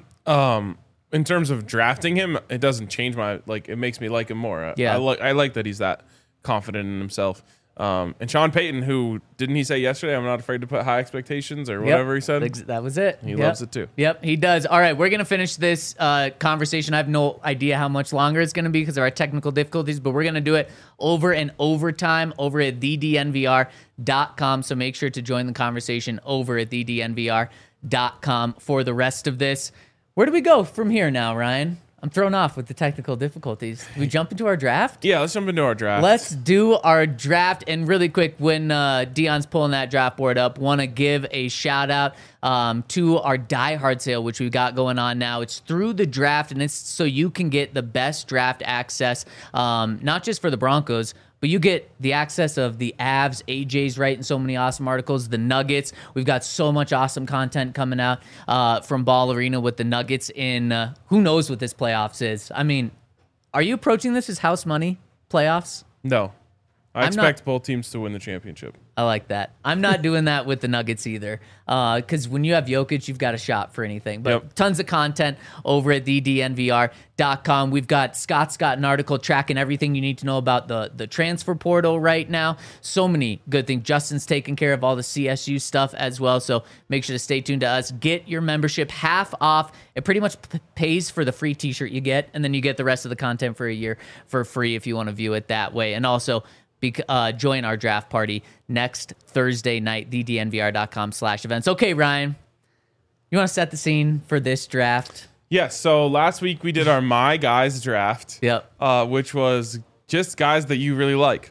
in terms of drafting him, it doesn't change it makes me like him more. I like that he's that confident in himself. And Sean Payton, who didn't he say yesterday, I'm not afraid to put high expectations or whatever he said? That was it. He loves it too. Yep, he does. All right, we're going to finish this conversation. I have no idea how much longer it's going to be because of our technical difficulties, but we're going to do it over and overtime over at thednvr.com. So make sure to join the conversation over at thednvr.com for the rest of this. Where do we go from here now, Ryan? I'm thrown off with the technical difficulties. Do we jump into our draft? Yeah, let's jump into our draft. Let's do our draft. And really quick, when Dion's pulling that draft board up, want to give a shout out to our Die Hard sale, which we've got going on now. It's through the draft, and it's so you can get the best draft access, not just for the Broncos, but you get the access of the Avs, AJ's writing so many awesome articles, the Nuggets. We've got so much awesome content coming out from Ball Arena with the Nuggets in who knows what this playoffs is. I mean, are you approaching this as house money playoffs? No. I expect both teams to win the championship. I like that. I'm not doing that with the Nuggets either, because when you have Jokic, you've got a shot for anything. But tons of content over at thednvr.com. We've got Scott's got an article tracking everything you need to know about the transfer portal right now. So many good things. Justin's taking care of all the CSU stuff as well, so make sure to stay tuned to us. Get your membership half off. It pretty much pays for the free t-shirt you get, and then you get the rest of the content for a year for free if you want to view it that way. And also, join our draft party next Thursday night, thednvr.com/events. Okay, Ryan, you want to set the scene for this draft? Yes. So last week we did our My Guys draft. Yep. Which was just guys that you really like.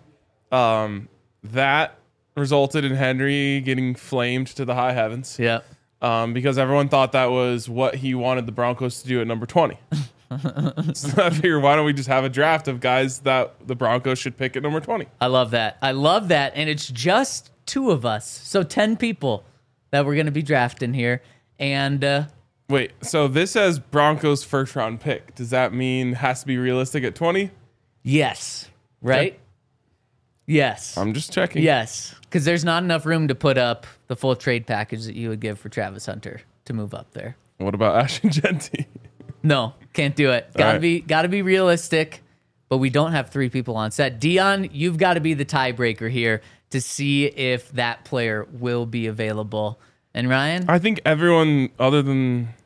That resulted in Henry getting flamed to the high heavens. Yep. Because everyone thought that was what he wanted the Broncos to do at number 20. So I figured, why don't we just have a draft of guys that the Broncos should pick at number 20? I love that. And it's just 2 of us. So 10 people that we're going to be drafting here. And wait, so this says Broncos first round pick. Does that mean it has to be realistic at 20? Yes. Right? Okay. Yes. I'm just checking. Yes. Because there's not enough room to put up the full trade package that you would give for Travis Hunter to move up there. What about Ashton Jeanty? No, can't do it. Gotta be realistic, but we don't have 3 people on set. Dion, you've got to be the tiebreaker here to see if that player will be available. And Ryan? I think everyone other than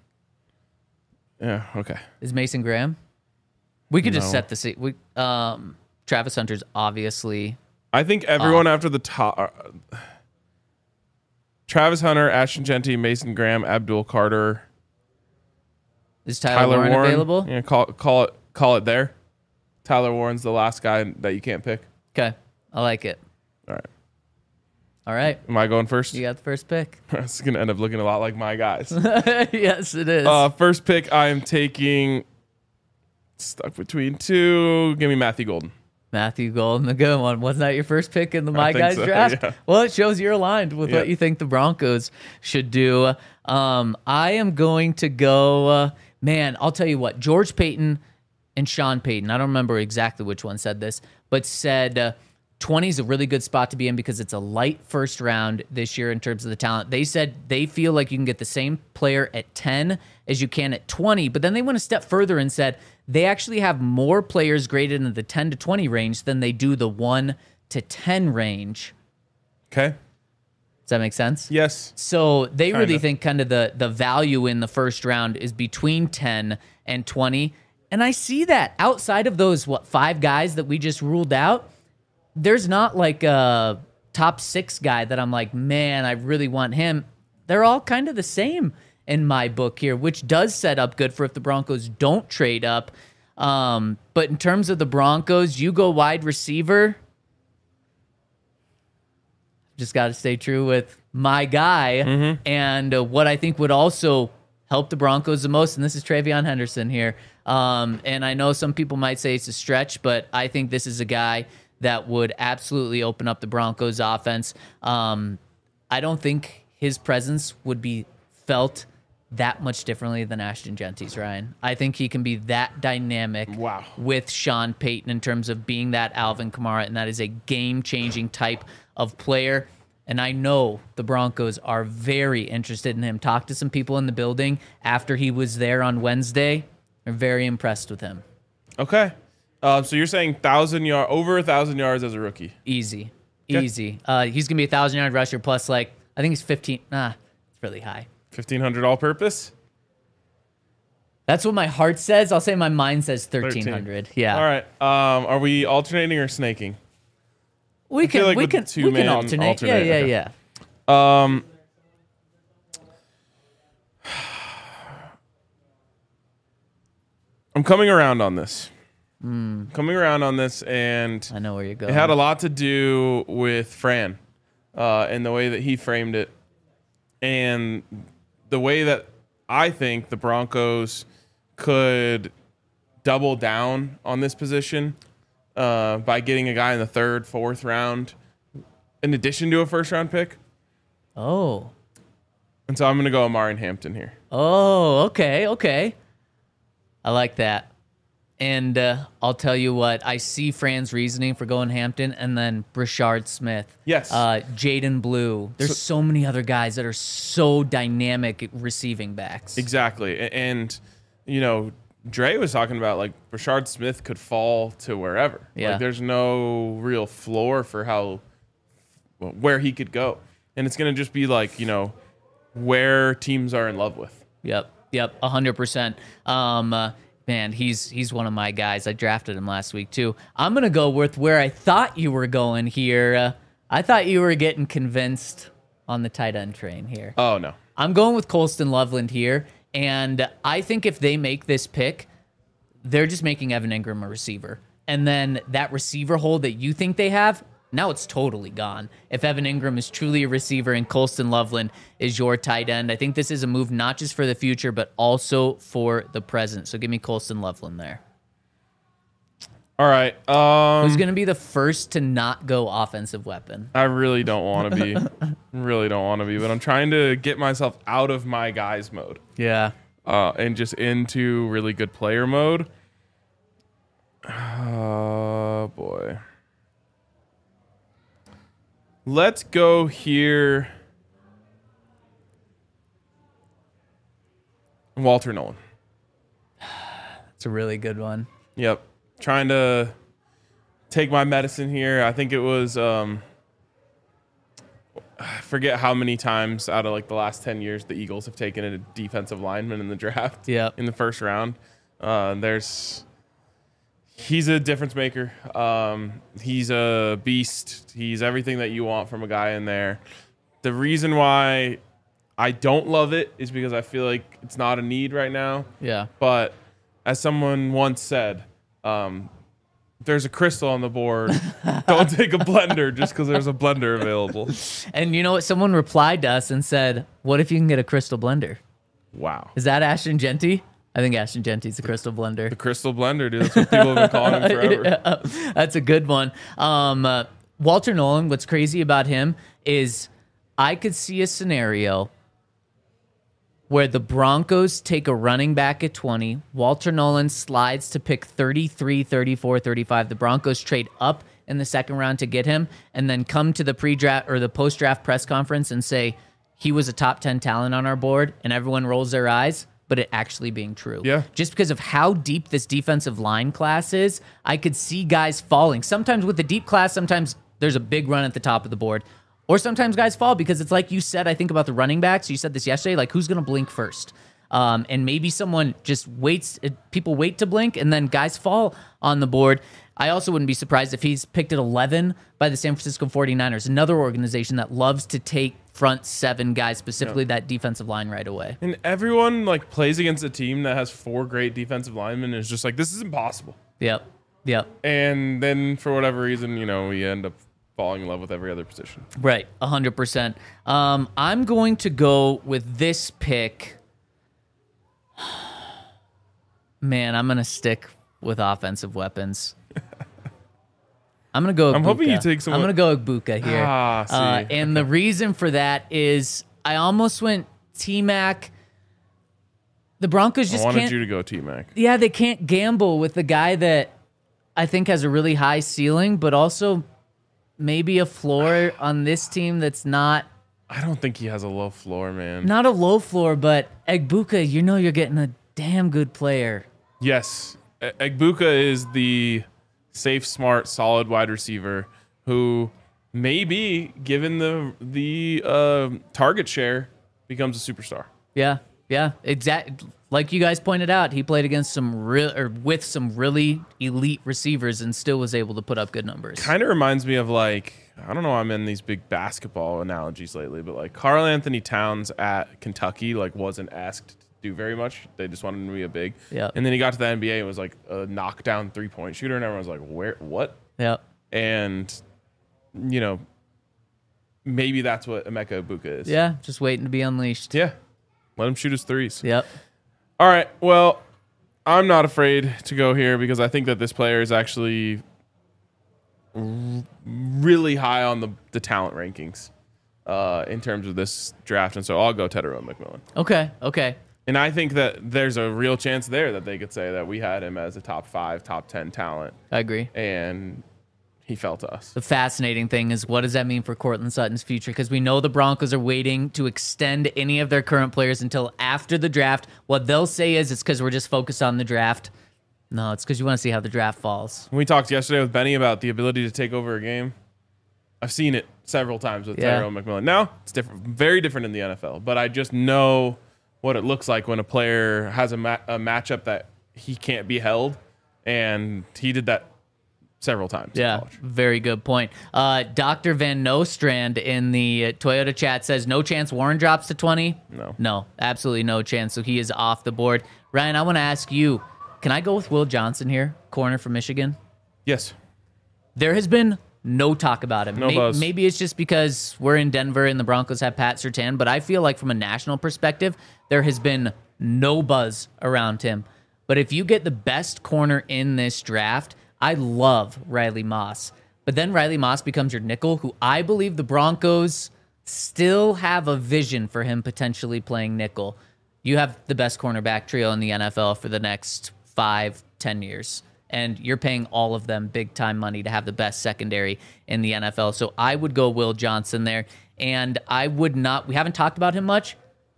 okay. Is Mason Graham? We could just set the scene. Travis Hunter's obviously. I think everyone after the top Travis Hunter, Ashton Jeanty, Mason Graham, Abdul Carter. Is Tyler Warren available? Yeah, call it there. Tyler Warren's the last guy that you can't pick. Okay. I like it. All right. Am I going first? You got the first pick. It's going to end up looking a lot like My Guys. Yes, it is. First pick, I am taking stuck between 2. Give me Matthew Golden. Matthew Golden, the good one. Wasn't that your first pick in the My Guys draft? Yeah. Well, it shows you're aligned with what you think the Broncos should do. I am going to go... I'll tell you what, George Payton and Sean Payton, I don't remember exactly which one said this, but said 20 is a really good spot to be in because it's a light first round this year in terms of the talent. They said they feel like you can get the same player at 10 as you can at 20, but then they went a step further and said they actually have more players graded in the 10 to 20 range than they do the 1 to 10 range. Okay. Does that make sense? Yes. So they really think kind of the value in the first round is between 10 and 20. And I see that outside of those, 5 guys that we just ruled out, there's not like a top 6 guy that I'm like, man, I really want him. They're all kind of the same in my book here, which does set up good for if the Broncos don't trade up. But in terms of the Broncos, you go wide receiver. Just got to stay true with my guy. Mm-hmm. And what I think would also help the Broncos the most, and this is Travion Henderson here. And I know some people might say it's a stretch, but I think this is a guy that would absolutely open up the Broncos offense. I don't think his presence would be felt that much differently than Ashton Genty's, Ryan. I think he can be that dynamic with Sean Payton in terms of being that Alvin Kamara, and that is a game-changing type of player. And I know the Broncos are very interested in him. Talked to some people in the building after he was there on Wednesday. They're very impressed with him. Okay. So you're saying over 1,000 yards as a rookie? Easy. Okay. Easy. He's going to be a 1,000-yard rusher plus, I think he's 15. It's really high. 1,500 all-purpose? That's what my heart says. I'll say my mind says 1,300. Yeah. All right. Are we alternating or snaking? We can alternate. Yeah. I'm coming around on this. And I know where you're going. It had a lot to do with Fran and the way that he framed it, and the way that I think the Broncos could double down on this position by getting a guy in the 3rd, 4th round in addition to a first-round pick. Oh. And so I'm going to go Omarion Hampton here. Oh, okay. I like that. And I'll tell you what, I see Fran's reasoning for going Hampton, and then Brashard Smith. Yes. Jaden Blue. There's so many other guys that are so dynamic receiving backs. Exactly. And, Dre was talking about, Brashard Smith could fall to wherever. Yeah. There's no real floor for where he could go. And it's going to just be where teams are in love with. Yep, 100%. Man, he's one of my guys. I drafted him last week, too. I'm going to go with where I thought you were going here. I thought you were getting convinced on the tight end train here. Oh, no. I'm going with Colston Loveland here, and I think if they make this pick, they're just making Evan Ingram a receiver. And then that receiver hole that you think they have, now it's totally gone. If Evan Ingram is truly a receiver and Colston Loveland is your tight end, I think this is a move not just for the future, but also for the present. So give me Colston Loveland there. All right. Who's going to be the first to not go offensive weapon? I really don't want to be. But I'm trying to get myself out of my guys mode. Yeah. And just into really good player mode. Oh, boy. Let's go here. Walter Nolan. That's a really good one. Yep. Trying to take my medicine here. I think it was, I forget how many times out of the last 10 years the Eagles have taken a defensive lineman in the draft. Yep. In the first round. He's a difference maker. He's a beast. He's everything that you want from a guy in there. The reason why I don't love it is because I feel like it's not a need right now. Yeah. But as someone once said, there's a crystal on the board. Don't take a blender just because there's a blender available. And you know what? Someone replied to us and said, what if you can get a crystal blender? Wow. Is that Ashton Genty? I think Ashton Genty's a crystal blender. The crystal blender, dude. That's what people have been calling him forever. Yeah, that's a good one. Walter Nolan, what's crazy about him is I could see a scenario where the Broncos take a running back at 20. Walter Nolan slides to pick 33, 34, 35. The Broncos trade up in the second round to get him and then come to the pre-draft or the post-draft press conference and say he was a top 10 talent on our board, and everyone rolls their eyes, but it actually being true. Yeah. Just because of how deep this defensive line class is, I could see guys falling. Sometimes with the deep class, sometimes there's a big run at the top of the board. Or sometimes guys fall because it's like you said, I think about the running backs. You said this yesterday, who's going to blink first? And maybe someone just waits. People wait to blink, and then guys fall on the board. I also wouldn't be surprised if he's picked at 11 by the San Francisco 49ers, another organization that loves to take front seven guys, specifically that defensive line right away. And everyone plays against a team that has 4 great defensive linemen and is just this is impossible. Yep. And then for whatever reason, we end up falling in love with every other position. Right, 100%. I'm going to go with this pick. Man, I'm going to stick with offensive weapons. I'm going to go Egbuka. I'm hoping you take someone. I'm going to go Egbuka here. And the reason for that is I almost went T-Mac. The Broncos just can't. I wanted you to go T-Mac. Yeah, they can't gamble with the guy that I think has a really high ceiling, but also maybe a floor on this team that's not. I don't think he has a low floor, man. Not a low floor, but Egbuka, you're getting a damn good player. Yes. Egbuka is the safe, smart, solid wide receiver who maybe, given the target share, becomes a superstar. Yeah, exactly. Like you guys pointed out, he played against with some really elite receivers and still was able to put up good numbers. Kind of reminds me of I don't know, I'm in these big basketball analogies lately, but Karl Anthony Towns at Kentucky wasn't asked to do very much. They just wanted him to be a big. Yeah. And then he got to the NBA and was a knockdown 3-point shooter, and everyone was like, "Where? What?" Yeah. And maybe that's what Emeka Egbuka is. Yeah, just waiting to be unleashed. Yeah. Let him shoot his threes. Yep. All right. Well, I'm not afraid to go here because I think that this player is actually really high on the talent rankings in terms of this draft. And so I'll go Tetairoa McMillan. Okay. And I think that there's a real chance there that they could say that we had him as a top 5, top 10 talent. I agree. And he fell to us. The fascinating thing is, what does that mean for Courtland Sutton's future? Because we know the Broncos are waiting to extend any of their current players until after the draft. What they'll say is it's because we're just focused on the draft. No, it's because you want to see how the draft falls. We talked yesterday with Benny about the ability to take over a game. I've seen it several times with Tetairoa McMillan. Now, it's different, very different in the NFL, but I just know what it looks like when a player has a matchup that he can't be held, and he did that several times. Yeah, very good point. Dr. Van Nostrand in the Toyota chat says, no chance Warren drops to 20? No, absolutely no chance. So he is off the board. Ryan, I want to ask you, can I go with Will Johnson here, corner from Michigan? Yes. There has been no talk about him. No buzz. Maybe it's just because we're in Denver and the Broncos have Pat Surtain, but I feel like from a national perspective, there has been no buzz around him. But if you get the best corner in this draft, I love Riley Moss. But then Riley Moss becomes your nickel, who I believe the Broncos still have a vision for him potentially playing nickel. You have the best cornerback trio in the NFL for the next 5-10 years. And you're paying all of them big-time money to have the best secondary in the NFL. So I would go Will Johnson there. And I would not... We haven't talked about him much.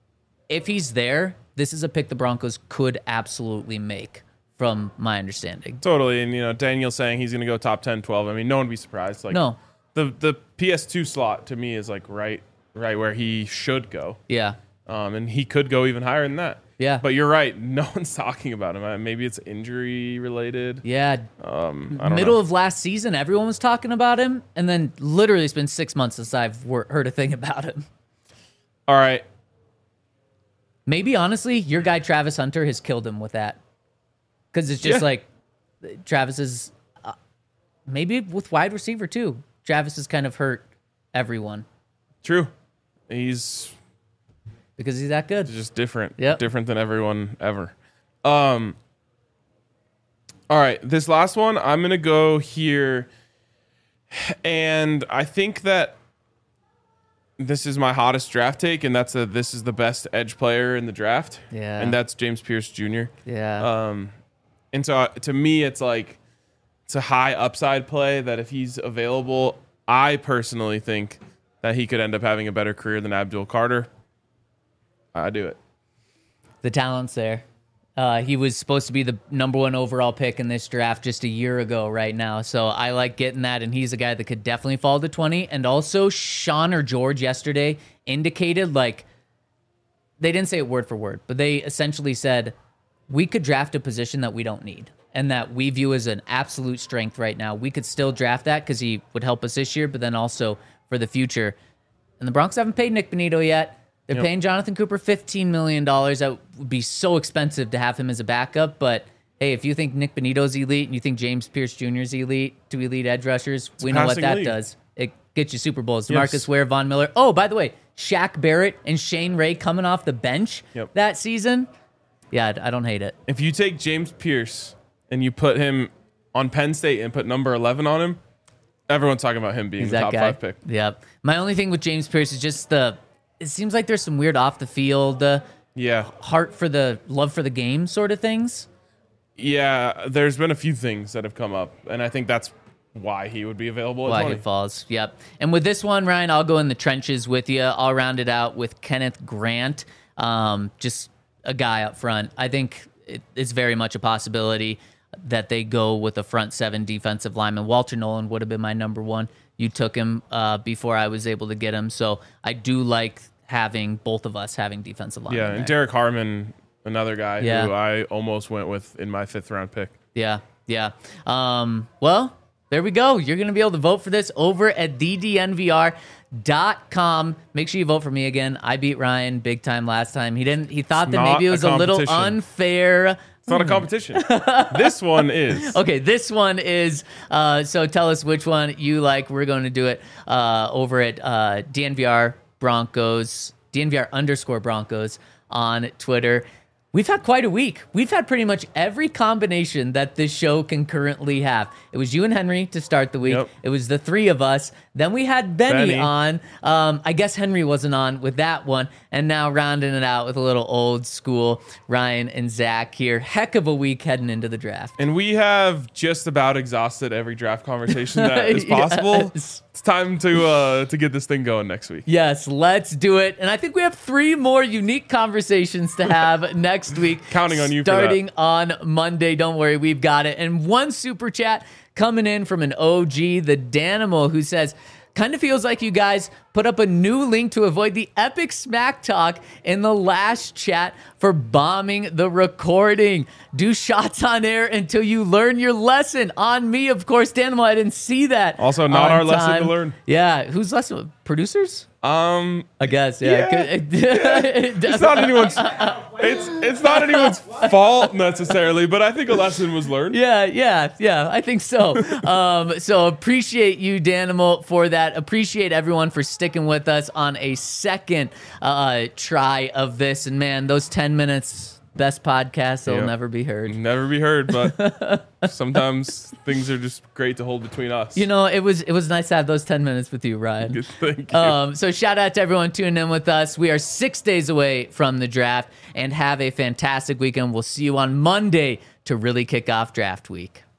If he's there, this is a pick the Broncos could absolutely make, from my understanding. Totally. And, Daniel's saying he's going to go top 10, 12. I mean, no one would be surprised. No. The PS2 slot, to me, is right where he should go. Yeah. And he could go even higher than that. Yeah. But you're right. No one's talking about him. Maybe it's injury related. Yeah. I don't Middle know. of last season, everyone was talking about him. And then literally it's been 6 months since I've heard a thing about him. All right. Maybe, honestly, your guy Travis Hunter has killed him with that. Because it's just Travis is... maybe with wide receiver, too. Travis has kind of hurt everyone. True. He's... because he's that good. It's just different. Yep. Different than everyone ever. All right. This last one, I'm going to go here. And I think that this is my hottest draft take, and this is the best edge player in the draft. Yeah. And that's James Pierce Jr. Yeah. And so to me, it's it's a high upside play that if he's available, I personally think that he could end up having a better career than Abdul Carter. I do it. The talent's there. He was supposed to be the number 1 overall pick in this draft just a year ago right now. So I like getting that, and he's a guy that could definitely fall to 20. And also, Sean or George yesterday indicated, they didn't say it word for word, but they essentially said, we could draft a position that we don't need and that we view as an absolute strength right now. We could still draft that because he would help us this year, but then also for the future. And the Broncos haven't paid Nick Bonito yet. They're paying Jonathan Cooper $15 million. That would be so expensive to have him as a backup. But, hey, if you think Nick Bonito's elite and you think James Pierce Jr. is elite, 2 elite edge rushers, we know what that does. It gets you Super Bowls. DeMarcus Ware, Von Miller. Oh, by the way, Shaq Barrett and Shane Ray coming off the bench that season. Yeah, I don't hate it. If you take James Pierce and you put him on Penn State and put number 11 on him, Everyone's talking about him being the top 5 pick. Yep. My only thing with James Pierce is just it seems like there's some weird off the field, heart for the love for the game sort of things. Yeah, there's been a few things that have come up, and I think that's why he would be available at 20. Why he falls, yep. And with this one, Ryan, I'll go in the trenches with you. I'll round it out with Kenneth Grant, just a guy up front. I think it's very much a possibility that they go with a front 7 defensive lineman. Walter Nolan would have been my number 1. You took him before I was able to get him, so I do like having both of us having defensive linemen. Yeah, and Derek Harmon, another guy who I almost went with in my 5th round pick. Yeah. Well, there we go. You're going to be able to vote for this over at ddnvr.com. Make sure you vote for me again. I beat Ryan big time last time. He thought that maybe it was a little unfair. It's not a competition. This one is. Okay, this one is. So tell us which one you like. We're going to do it over at DNVR Broncos, DNVR_Broncos on Twitter. We've had quite a week. We've had pretty much every combination that this show can currently have. It was you and Henry to start the week. Yep. It was the 3 of us. Then we had Benny on. I guess Henry wasn't on with that one. And now rounding it out with a little old school Ryan and Zach here. Heck of a week heading into the draft. And we have just about exhausted every draft conversation that is possible. Yes. It's time to get this thing going next week. Yes, let's do it. And I think we have 3 more unique conversations to have next week. Counting on you starting for that. on Monday. Don't worry, we've got it. And one super chat coming in from an OG, the Danimal, who says, kind of feels like you guys put up a new link to avoid the epic smack talk in the last chat for bombing the recording. Do shots on air until you learn your lesson. On me, of course. Danimal, I didn't see that. Also, not our lesson to learn. Yeah, whose lesson? Producers? I guess, yeah. It's not anyone's. It's not anyone's fault necessarily, but I think a lesson was learned. Yeah. I think so. So appreciate you, Danimal, for that. Appreciate everyone for sticking with us on a second try of this. And man, those 10 minutes. Best podcast that will never be heard. Never be heard, but sometimes things are just great to hold between us. You know, it was nice to have those 10 minutes with you, Ryan. Thank you. So shout out to everyone tuning in with us. We are 6 days away from the draft, and have a fantastic weekend. We'll see you on Monday to really kick off draft week.